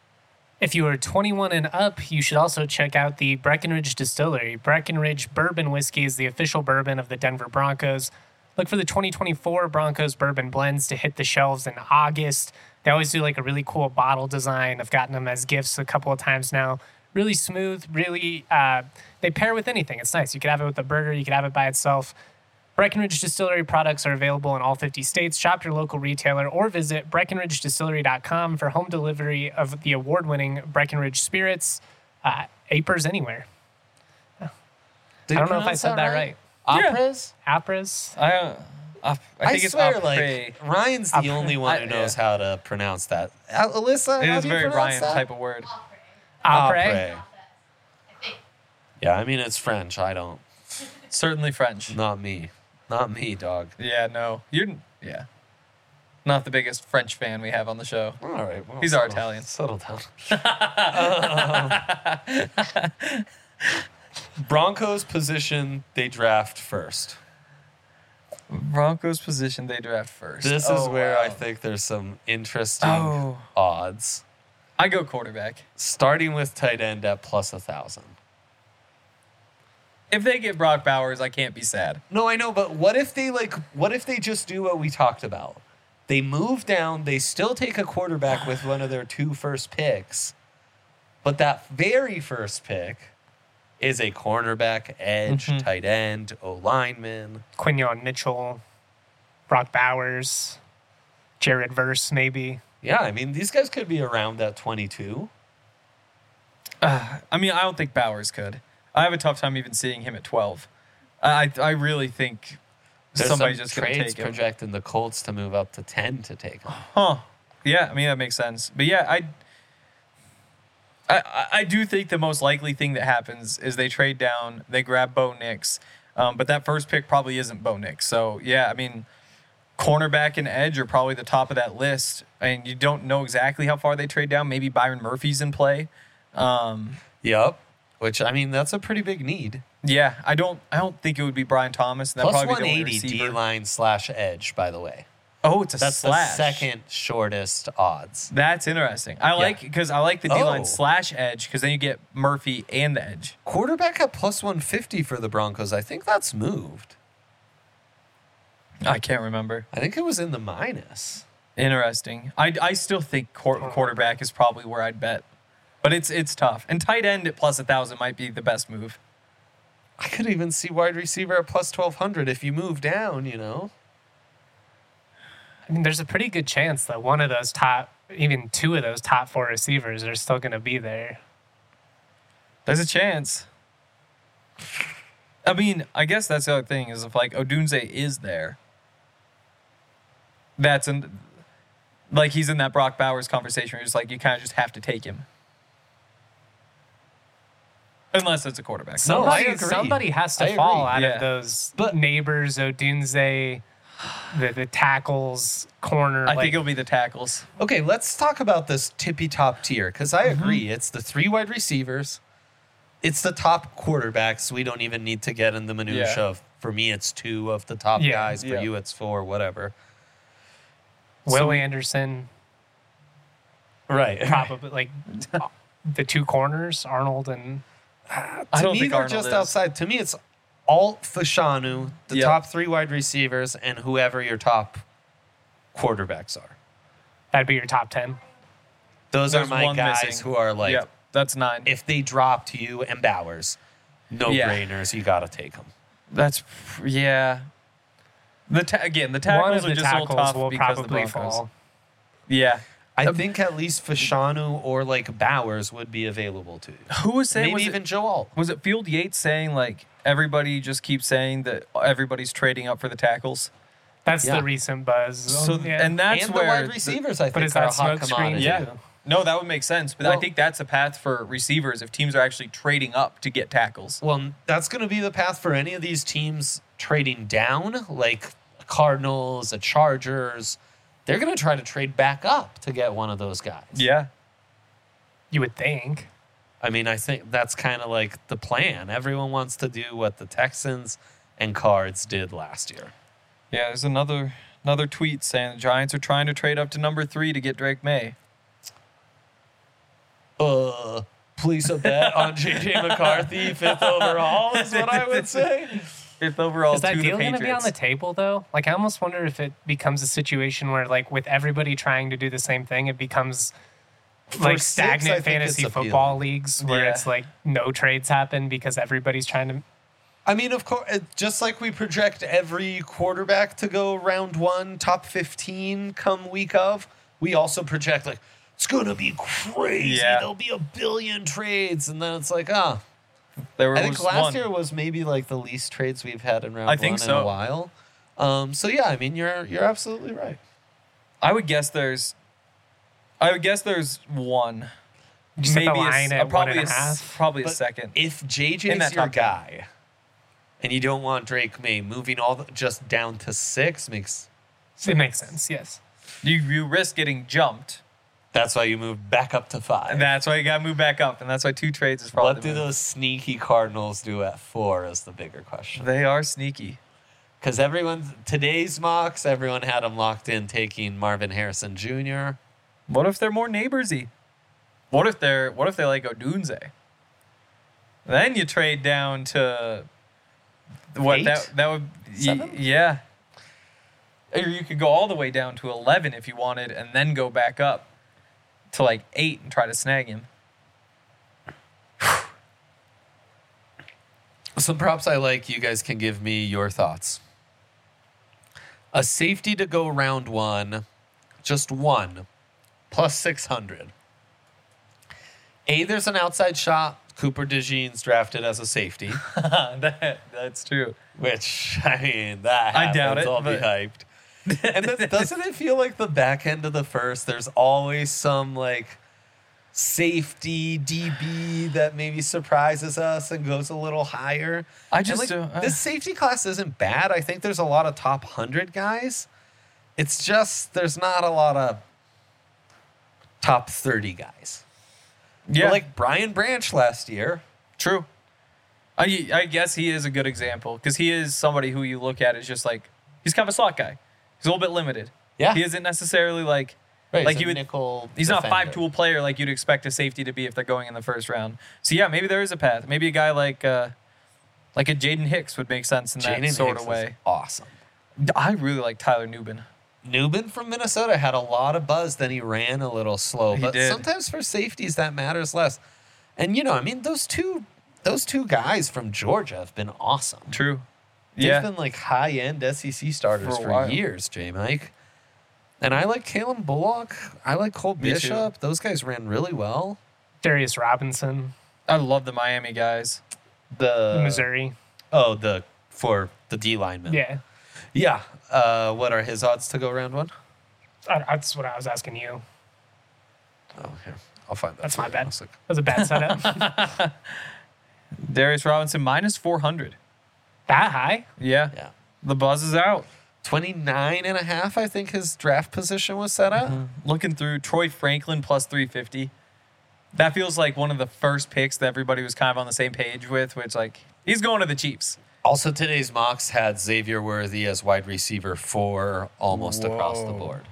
If you are twenty-one and up, you should also check out the Breckenridge Distillery. Breckenridge Bourbon Whiskey is the official bourbon of the Denver Broncos. Look for the twenty twenty-four Broncos Bourbon Blends to hit the shelves in August. They always do like a really cool bottle design. I've gotten them as gifts a couple of times now. Really smooth, really, uh, they pair with anything. It's nice. You could have it with a burger, you could have it by itself. Breckenridge Distillery products are available in all fifty states. Shop your local retailer or visit breckenridge distillery dot com for home delivery of the award-winning Breckenridge spirits. Uh, Apers anywhere. Did I you don't know if I pronounce said that right. Yeah. Opras? Apres. I, uh, I, I think it's swear, après. like Ryan's the Après. only one who I- knows yeah. how to pronounce that. Uh, Alyssa, It how is do you very pronounce Ryan that? type of word. Apres. Après. Yeah, I mean it's French. I don't. Certainly French. Not me. Not me, dog. Yeah, no. You're, yeah. Not the biggest French fan we have on the show. All right. Well, He's our settle- Italian. Settle down. Um, Broncos position they draft first. Broncos position they draft first. This Oh, is where wow. I think there's some interesting Oh. odds. I go quarterback. Starting with tight end at plus a thousand. If they get Brock Bowers, I can't be sad. No, I know, but what if they like? What if they just do what we talked about? They move down. They still take a quarterback with one of their two first picks, but that very first pick is a cornerback, edge, Mhm. tight end, O lineman. Quinion Mitchell, Brock Bowers, Jared Verse, maybe. Yeah, I mean these guys could be around at twenty-two. Uh, I mean, I don't think Bowers could. I have a tough time even seeing him at twelve. I I really think There's somebody's some just going to trades take him. projecting the Colts to move up to ten to take him. Huh. Yeah, I mean, that makes sense. But yeah, I I, I I do think the most likely thing that happens is they trade down, they grab Bo Nix, um, but that first pick probably isn't Bo Nix. So yeah, I mean, cornerback and edge are probably the top of that list, and you don't know exactly how far they trade down. Maybe Byron Murphy's in play. Um, Yep. Which, I mean, that's a pretty big need. yeah, I don't I don't think it would be Brian Thomas. That'd Plus probably be the only one eighty receiver. D-line slash edge, by the way. Oh, it's a That's slash. the second shortest odds. That's interesting. I like because I like the D line Oh. slash edge because then you get Murphy and the edge. Quarterback at plus one fifty for the Broncos. I think that's moved. I can't remember. I think it was in the minus. Interesting. I, I still think quar- quarterback is probably where I'd bet, but it's it's tough. And tight end at plus a thousand might be the best move. I could even see wide receiver at plus twelve hundred if you move down, you know? I mean, there's a pretty good chance that one of those top, even two of those top four receivers are still going to be there. There's a chance. I mean, I guess that's the other thing is if like Odunze is there, that's in, like he's in that Brock Bowers conversation where it's like you kind of just have to take him. Unless it's a quarterback. No, I Somebody, agree. somebody has to I fall agree. out Yeah. of those But- neighbors, Odunze, the, the tackles, corner. I like, think it'll be the tackles. Okay, let's talk about this tippy top tier because I Mm-hmm. agree. It's the three wide receivers, it's the top quarterbacks. We don't even need to get in the minutia Yeah. of. For me, it's two of the top Yeah. guys. For Yeah. you, it's four. Whatever. Will So- Anderson, Right. probably like the two corners, Arnold and I To don't me, think they're Arnold just is. outside. To me, it's Alt Fashanu, the Yep. top three wide receivers, and whoever your top quarterbacks are. that'd be your top ten. Those There's are my one guys missing. who are like, Yep, that's nine. if they drop to you and Bowers, no Yeah. brainers. You got to take them. That's yeah. The ta- again, the One tackles of are the just a little tackles tough will because of the probably Broncos. fall. Yeah. I Um, think at least Fashanu or like Bowers would be available to you. Who was saying? Maybe was even it, Joe Alt. was it Field Yates saying like everybody just keeps saying that everybody's trading up for the tackles? That's Yeah. the recent buzz. So yeah. and that's and where the wide the- receivers, I but think, is are a that hot smokescreen commodity. Yeah. too? No, that would make sense. But I Well- think that's a path for receivers if teams are actually trading up to get tackles. Well, that's going to be the path for any of these teams trading down, like Cardinals, the Chargers. They're going to try to trade back up to get one of those guys. Yeah. You would think. I mean, I think that's kind of like the plan. Everyone wants to do what the Texans and Cards did last year. Yeah, there's another another tweet saying the Giants are trying to trade up to number three to get Drake May. Uh, please a bet on J J McCarthy, fifth overall, is what I would say. Fifth overall Is that to the deal going to be on Patriots. the table though? Like, I almost wonder if it becomes a situation where, like, with everybody trying to do the same thing, it becomes like six, I stagnant think fantasy it's football appealing. leagues where Yeah. it's like no trades happen because everybody's trying to. I mean, of course, it- just like we project every quarterback to go round one, top fifteen come week of, we also project, like, it's going to be crazy. Yeah. There'll be a billion trades. And then it's like, ah. There I think was last one. year was maybe like the least trades we've had in round I think one in so. a while. Um, so, yeah, I mean, you're you're absolutely right. I would guess there's. I would guess there's one. You set the Maybe a s- line uh, at one probably and a a, s- half. probably a But second. If J In J's that your top ten. guy and you don't want Drake May, moving all the, just down to six makes It makes sense. Yes. You you risk getting jumped, that's why you move back up to five. and that's why you got to move back up, and that's why two trades is probably. What the do move. those sneaky Cardinals do at four is the bigger question. They are sneaky. Because everyone, today's mocks, everyone had them locked in taking Marvin Harrison Junior What if they're more neighborsy? What if they're what if they like Odunze? Then you trade down to what Eight? that that would y- Seven? yeah. Or you could go all the way down to eleven if you wanted, and then go back up to like eight and try to snag him. Some props I like, you guys can give me your thoughts. A safety to go round one, just one, plus six hundred. A, there's an outside shot. Cooper DeJean's drafted as a safety, that, that's true. which, I mean, that I doubt happens, it, I'll be but- hyped. And then, doesn't it feel like the back end of the first, there's always some, like, safety D B that maybe surprises us and goes a little higher. I And, just like, don't- uh. this safety class isn't bad. I think there's a lot of top one hundred guys. It's just there's not a lot of top thirty guys. Yeah, But like Brian Branch last year. true. I I guess he is a good example because he is somebody who you look at as just like he's kind of a slot guy. He's a little bit limited. Yeah. He isn't necessarily like Right, like he's you a would. nickel He's not a defender. five tool player like you'd expect a safety to be if they're going in the first round. So yeah, maybe there is a path. Maybe a guy like uh, like a Jaden Hicks would make sense in that Jaden sort Hicks of was way. awesome. I really like Tyler Nubin. Newman from Minnesota had a lot of buzz, then he ran a little slow. He but did. sometimes for safeties that matters less. And you know, I mean, those two those two guys from Georgia have been awesome. True. They've Yeah. been like high end S E C starters For a for, while. years, J Mike. And I like Kalen Bullock. I like Cole Me too. Bishop. Those guys ran really well. Darius Robinson, I love the Miami guys. The Missouri. Oh, the for the D lineman. Yeah, Yeah. Uh, what are his odds to go round one? I, that's what I was asking you. Oh, here. I'll find that. That's for my you. bad. One sec. That was a bad setup. Darius Robinson minus four hundred. That high? Yeah. Yeah. The buzz is out. twenty-nine and a half, I think his draft position was set at. Looking through Troy Franklin plus three fifty. That feels like one of the first picks that everybody was kind of on the same page with, which like he's going to the Chiefs. Also, today's mocks had Xavier Worthy as wide receiver four almost across the Whoa. board.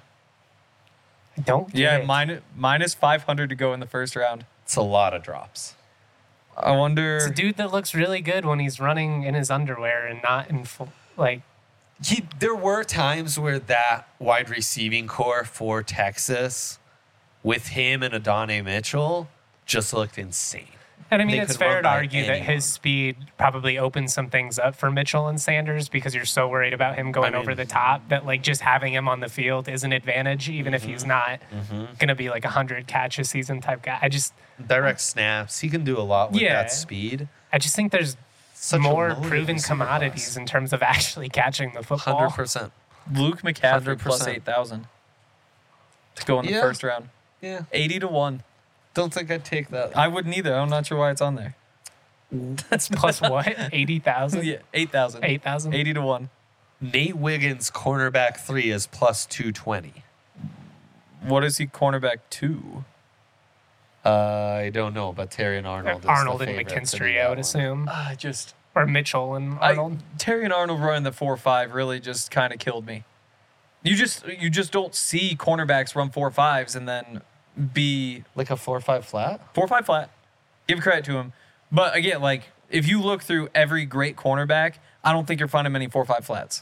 I don't get Yeah, it. minus minus five hundred to go in the first round. It's a lot of drops. I wonder. It's a dude that looks really good when he's running in his underwear and not in full, like, He, there were times where that wide receiving core for Texas with him and Adonai Mitchell just looked insane. and I mean, They it's could fair run to by argue that anyone. his speed probably opens some things up for Mitchell and Sanders because you're so worried about him going I mean- over the top that, like, just having him on the field is an advantage, even if Mm-hmm. he's not going to be like a hundred catch a season type guy. I just, Direct snaps. He can do a lot with Yeah. that speed. I just think there's Such a more loaded proven receiver commodities class. in terms of actually catching the football. one hundred percent. Luke McCaffrey plus one hundred percent. eight thousand to go in the Yeah. first round. Yeah. Eighty to one. Don't think I'd take that. I wouldn't either. I'm not sure why it's on there. That's plus what? eighty thousand? Yeah, eight thousand. eight thousand? Eighty to one. Nate Wiggins, cornerback three, is plus two twenty. What is he cornerback two? Uh, I don't know, but Terry and Arnold. Is Arnold the and favorite to do McKinstry, that I would one. assume. I just Or Mitchell and I, Arnold. Terry and Arnold running the four five really just kind of killed me. You just you just don't see cornerbacks run four fives and then be Like a four five flat. four five flat. Give credit to him, but again, like if you look through every great cornerback, I don't think you're finding many four five flats.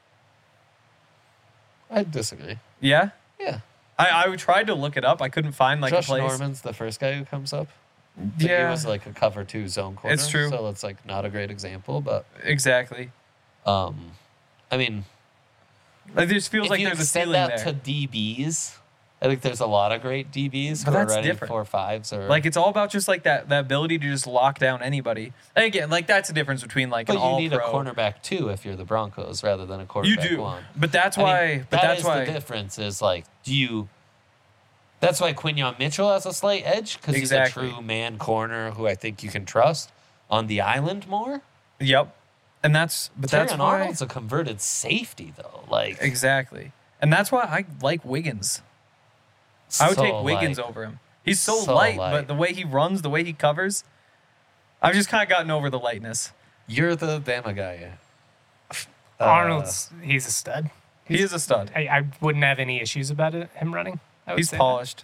I disagree. Yeah, Yeah. I I tried to look it up. I couldn't find like Josh a place. Norman's the first guy who comes up. But Yeah. He was like a cover two zone corner. It's true. So it's like not a great example, but Exactly. um, I mean, Like this feels if like you there's a extend ceiling that there. to D Bs, I think there's a lot of great D Bs But who are that's running different. four fives or Like it's all about just like that that ability to just lock down anybody. And again, like that's the difference between like But an you all need pro. a cornerback too if you're the Broncos rather than a You quarterback do, one. but that's I mean, why. but that that's is why. the difference is like, do you? That's why Quinion Mitchell has a slight edge because Exactly. he's a true man corner who I think you can trust on the island more. Yep. And that's but Terry that's why Arnold's a converted safety though. Like exactly. And that's why I like Wiggins. I would so, take Wiggins like, over him. He's so, so light, light. but the way he runs, the way he covers, I've just kind of gotten over the lightness. You're the Bama guy. Uh, Arnold's, he's a stud. He is a stud. I, I wouldn't have any issues about it, him running. I would He's say that. polished.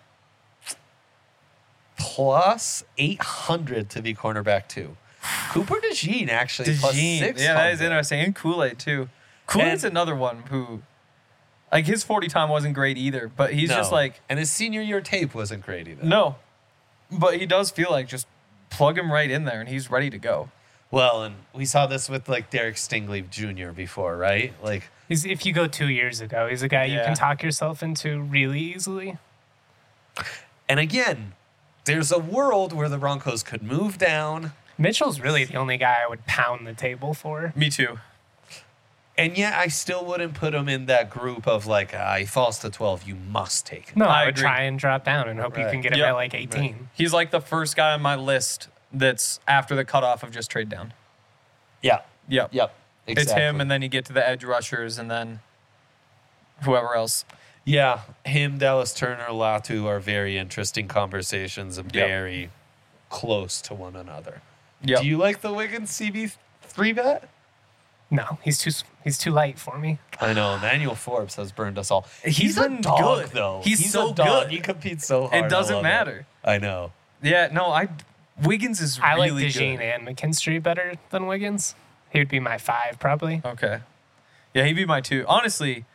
plus eight hundred to be cornerback two. Cooper DeJean actually plus DeJean. six. Yeah, that is interesting. And Kool-Aid too. Kool-Aid's And- another one who, like his forty time wasn't great either, but he's just like, and his senior year tape wasn't great either. no. But he does feel like just plug him right in there and he's ready to go. Well, and we saw this with like Derek Stingley Junior before, right? Like He's, if you go two years ago, he's a guy you Yeah. can talk yourself into really easily. And again, there's a world where the Broncos could move down. Mitchell's really the only guy I would pound the table for. Me too. And yet, I still wouldn't put him in that group of like, ah, he falls to twelve, you must take him. No, I I would agree. try and drop down and hope you Right. can get him Yep. at like eighteen. He's like the first guy on my list that's after the cutoff of just trade down. Yeah. Yep. Yep. Exactly. It's him, and then you get to the edge rushers, and then whoever else. Yeah, him, Dallas Turner, Latu are very interesting conversations and Yep. very close to one another. Yep. Do you like the Wiggins C B three bet? No, he's too he's too light for me. I know. Emmanuel Forbes has burned us all. He's He's, a been dog, good. though. He's so a dog. good. He competes so hard. It I doesn't love matter. I know. Yeah, no, I Wiggins is I like really DeJean good. and McKinstry better than Wiggins. He would be my five probably. Okay. Yeah, he'd be my two. Honestly,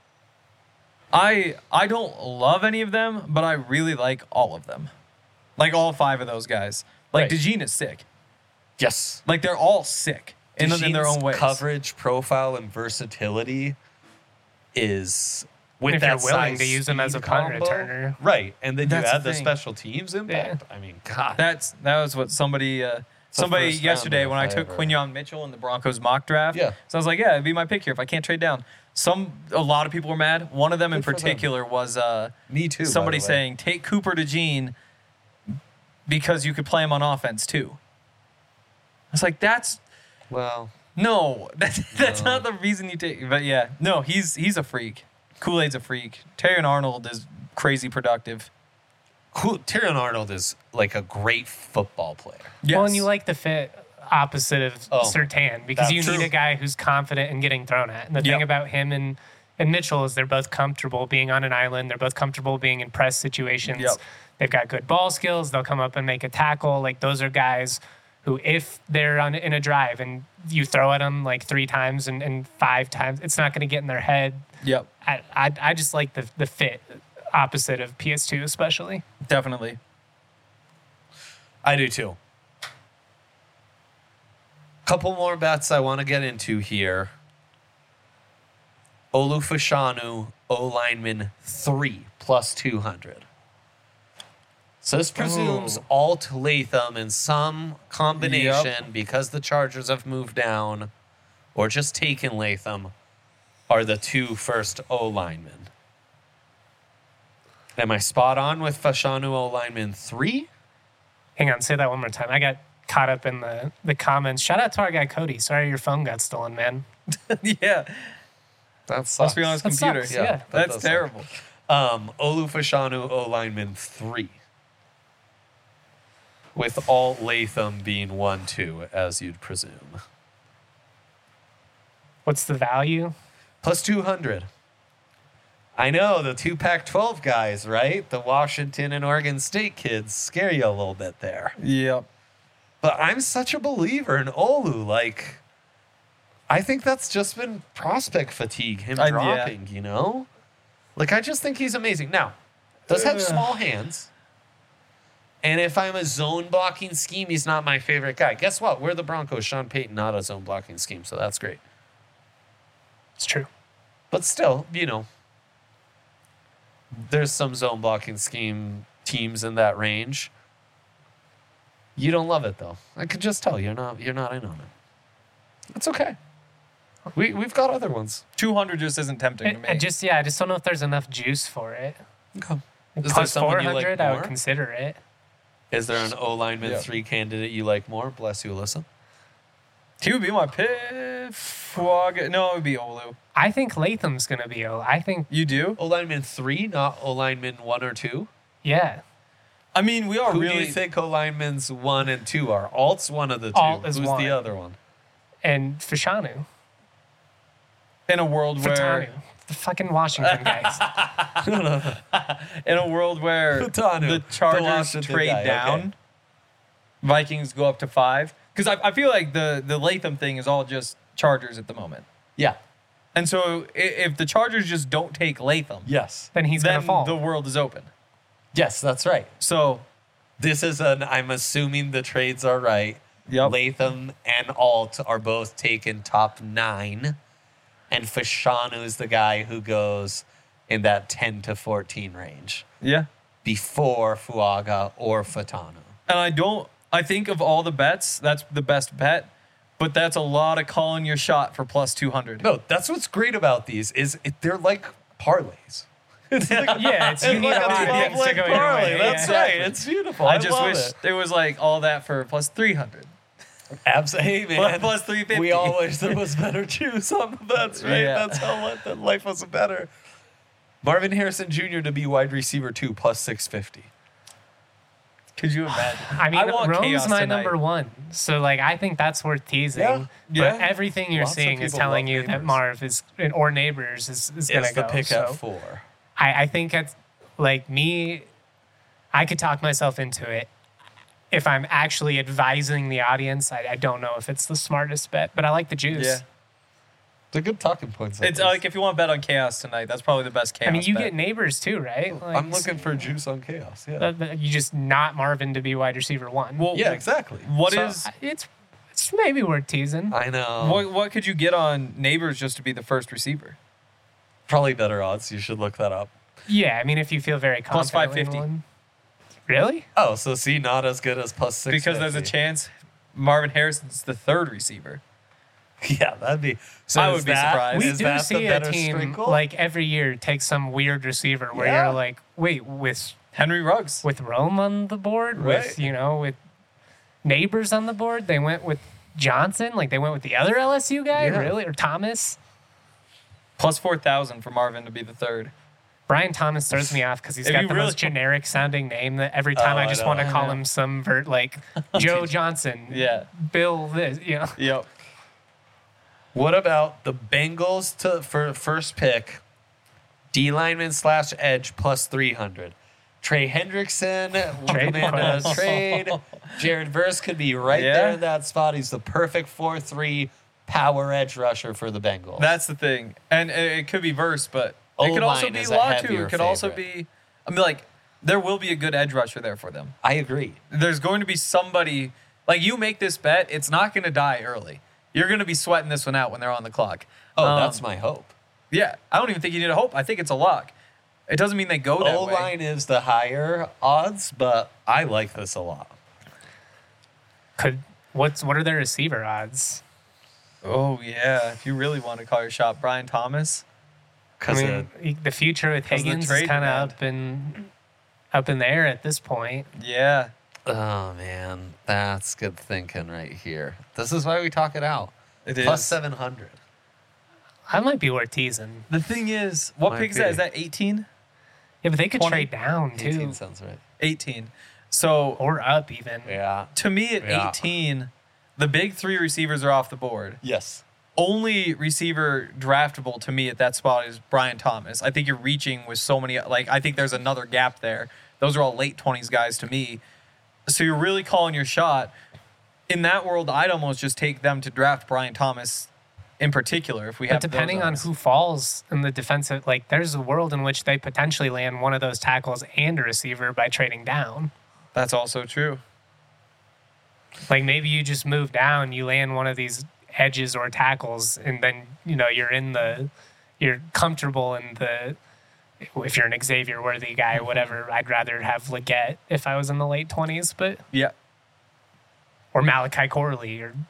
I I don't love any of them, but I really like all of them. Like all five of those guys. Like Right. DeJean is sick. Yes. Like they're all sick in, in their DeJean's own ways. coverage, profile, and versatility is with If that you're willing size to use him as speed a punt combo, returner. right? And then That's you the add the, thing. special teams impact. I mean, God, That's that was what somebody uh, a somebody first yesterday rounder when I if I took ever- Quinyon Mitchell in the Broncos mock draft. Yeah. So I was like, yeah, it'd be my pick here if I can't trade down. Some a lot of people were mad. One of them in Good for them. particular was uh, me too. by somebody the way. saying take Cooper DeJean because you could play him on offense too. I was like, that's well, no, that's that's No. not the reason you take. But yeah, no, he's he's a freak. Kool-Aid's a freak. Terry Arnold is crazy productive. cool. Tyrion Arnold is like a great football player. Yes. Well, and you like the fit opposite of Oh, Surtain because that's you need true. a guy who's confident in getting thrown at. And the Yep. thing about him and, and Mitchell is they're both comfortable being on an island. They're both comfortable being in press situations. Yep. They've got good ball skills. They'll come up and make a tackle. Like those are guys who, if they're on in a drive and you throw at them like three times and, and five times, it's not going to get in their head. Yep, I, I, I just like the, the fit opposite of P S two especially. definitely. I do too. Couple more bets I want to get into here. Olu Fashanu, O lineman three plus two hundred. So this presumes Oh. Alt Latham in some combination because the Chargers have moved down or just taken Latham are the two first O linemen. Am I spot on with Fashanu O lineman three? Hang on, say that one more time. I got caught up in the, the comments. Shout out to our guy Cody. Sorry your phone got stolen, man. Yeah, That sucks. must be on his That computer. sucks, yeah. that That's does suck. terrible. Um, Olu Fashanu, O lineman three. With Alt Latham being one, two, as you'd presume. What's the value? Plus two hundred. I know, the two Pac twelve guys, right? The Washington and Oregon State kids scare you a little bit there. Yep. But I'm such a believer in Olu. Like, I think that's just been prospect fatigue, him Uh, yeah. dropping, you know? Like, I just think he's amazing. Now, does have Ugh. small hands. And if I'm a zone blocking scheme, he's not my favorite guy. Guess what? We're the Broncos. Sean Payton, not a zone blocking scheme, so that's great. It's true. But still, you know, there's some zone blocking scheme teams in that range. You don't love it though. I could just tell you're not you're not in on it. It's okay. We we've got other ones. two hundred just isn't tempting to I, me. I just yeah, I just don't know if there's enough juice for it. Okay. Like, Is there plus someone four you like hundred, I would more? consider it. Is there an O lineman Yeah. three candidate you like more? Bless you, Alyssa. He would be my pick. Fuag- No, it would be Olu. I think Latham's gonna be. a- I think You do? O lineman three, not O lineman one or two. yeah. I mean, we are Who really. do you think O linemen's one and two are? Alt's one of the two. Alt is Who's one. the other one? And Fashanu, in a world where Fatanu, the fucking Washington guys. in a world where Fatanu, the the Chargers Washington trade guy, down, okay. Vikings go up to five. Because I, I feel like the the Latham thing is all just Chargers at the moment. Yeah. And so i- if the Chargers just don't take Latham, Yes. Then he's then gonna fall. the world is open. Yes, that's right. So This is an, I'm assuming the trades are right. Yep. Latham and Alt are both taken top nine. And Fashanu is the guy who goes in that ten to fourteen range yeah. before Fuaga or Fatanu. And I don't. I think of all the bets, that's the best bet. But that's a lot of calling your shot for plus two hundred. No, that's what's great about these is it, they're like parlays. It's like, Yeah, it's, you it's need like a a lot of twelve things to leg go your parlay. way. That's yeah. right. It's beautiful. I I, just love wish it. there was like all that for plus three hundred. Absolutely, hey, man. Plus three fifty. We all wish there was better juice on the bets, right? Yeah. That's how li- that life was better. Marvin Harrison Junior to be wide receiver two plus six fifty. Could you imagine? I mean, want Rome's chaos my tonight. number one, so like I think that's worth teasing. Yeah. Yeah. But everything you're Lots of seeing is people telling love you that Neighbors. Marv is or Neighbors is, is gonna Is the go. pick so at four. I, I think it's like me. I could talk myself into it. If I'm actually advising the audience, I, I don't know if it's the smartest bet, but I like the juice. Yeah. They're good talking points. It's like if you want to bet on chaos tonight, that's probably the best chaos. I mean, you bet. get Neighbors too, right? Like, I'm looking for juice on chaos. Yeah. that- that- you just not Marvin to be wide receiver one. Well, yeah, exactly. What So, is I- it's it's maybe worth teasing. I know. what? What could you get on Neighbors just to be the first receiver? Probably better odds. You should look that up. Yeah, I mean, if you feel very Plus confident. five fifty. in one. Really? Oh, so see, not as good as plus six. Because there's a chance Marvin Harrison's the third receiver. Yeah, that'd be. So I is would be that- surprised. We is do that the see a better team sprinkle? like every year take some weird receiver where Yeah. you're like, wait, with Henry Ruggs. with Rome on the board, Right. with you know, with Neighbors on the board, they went with Johnson, like they went with the other L S U guy, Yeah. really, or Thomas. Plus four thousand for Marvin to be the third. Brian Thomas throws me off because he's If got you the really- most generic sounding name that every time Oh, I I just know. want to I call know. him some vert like Joe Johnson, Yeah. Bill this, you know. Yep. What about the Bengals to for first pick? D lineman slash edge plus three hundred. Trey Hendrickson, Trade Amanda points. trade. Jared Verse could be right Yeah. there in that spot. He's the perfect four three power edge rusher for the Bengals. That's the thing, and it, it could be Verse, but it could also O-line be is a Latu. heavier It could also favorite. be. I mean, like there will be a good edge rusher there for them. I agree. There's going to be somebody like you make this bet. It's not going to die early. You're going to be sweating this one out when they're on the clock. Oh, Um, that's my hope. Yeah, I don't even think you need a hope. I think it's a lock. It doesn't mean they go that O way. line is the higher odds, but I like this a lot. Could what's what are their receiver odds? Oh yeah, if you really want to call your shot, Brian Thomas. I Because mean, e- the future with 'cause of the Higgins is trade kind demand. of up in up in the air at this point. Yeah, oh man, that's good thinking right here. This is why we talk it out. it Plus is. seven hundred. That might be worth teasing. The thing is, what Might pick is that? be. Is that eighteen? Yeah, but they could twenty, trade down too, eighteen sounds right. eighteen. So or up even. Yeah. to me, at Yeah. eighteen, the big three receivers are off the board. Yes. Only receiver draftable to me at that spot is Brian Thomas. I think you're reaching with so many. Like I think there's another gap there. Those are all late twenties guys to me. So you're really calling your shot. In that world, I'd almost just take them to draft Brian Thomas in particular if we have But depending those on odds. who falls in the defensive, like there's a world in which they potentially land one of those tackles and a receiver by trading down. That's also true. Like maybe you just move down, you land one of these edges or tackles, and then you know you're in the, you're comfortable in the. If you're an Xavier Worthy guy, or whatever, I'd rather have Leggett if I was in the late twenties, but Yeah. or Malachi Corley or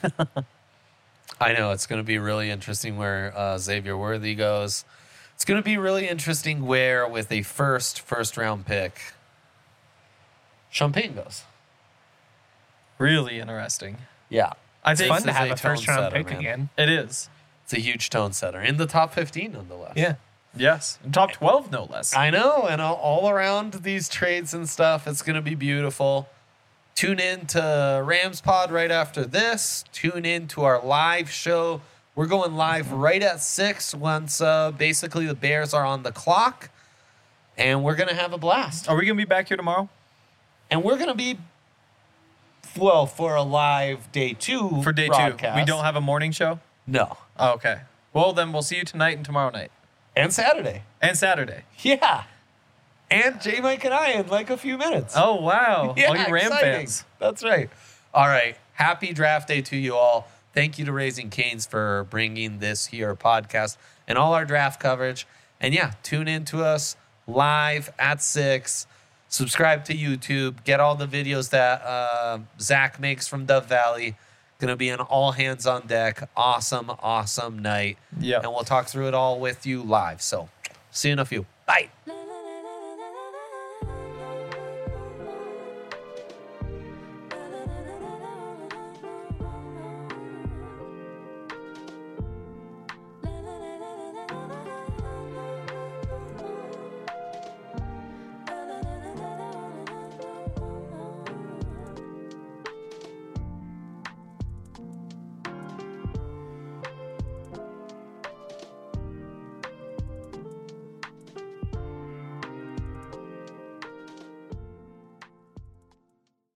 I know it's going to be really interesting where uh, Xavier Worthy goes. It's going to be really interesting where, with a first first round pick, Champagne goes. Really interesting. Yeah, I it's think fun to this is have a a first round tone setter, pick man. again. it is. it's a huge tone setter in the top fifteen, nonetheless. Yeah. Yes. Top twelve, no less. I know, and all, all around these trades and stuff, it's going to be beautiful. Tune in to Rams Pod right after this. Tune in to our live show. We're going live right at six once uh, basically the Bears are on the clock, and we're going to have a blast. Are we going to be back here tomorrow? And we're going to be, well, for a live day two For day two. broadcast. We don't have a morning show? No. Oh, okay. Well, then we'll see you tonight and tomorrow night. And Saturday. And Saturday. Yeah. And J Mike and I in like a few minutes. Oh, wow. Yeah, All you Ram exciting. fans. That's right. All right. Happy draft day to you all. Thank you to Raising Canes for bringing this here podcast and all our draft coverage. And yeah, tune in to us live at six. Subscribe to YouTube. Get all the videos that uh, Zach makes from Dove Valley Going to be an all hands on deck, awesome, awesome night. Yeah. And we'll talk through it all with you live. So see you in a few. Bye.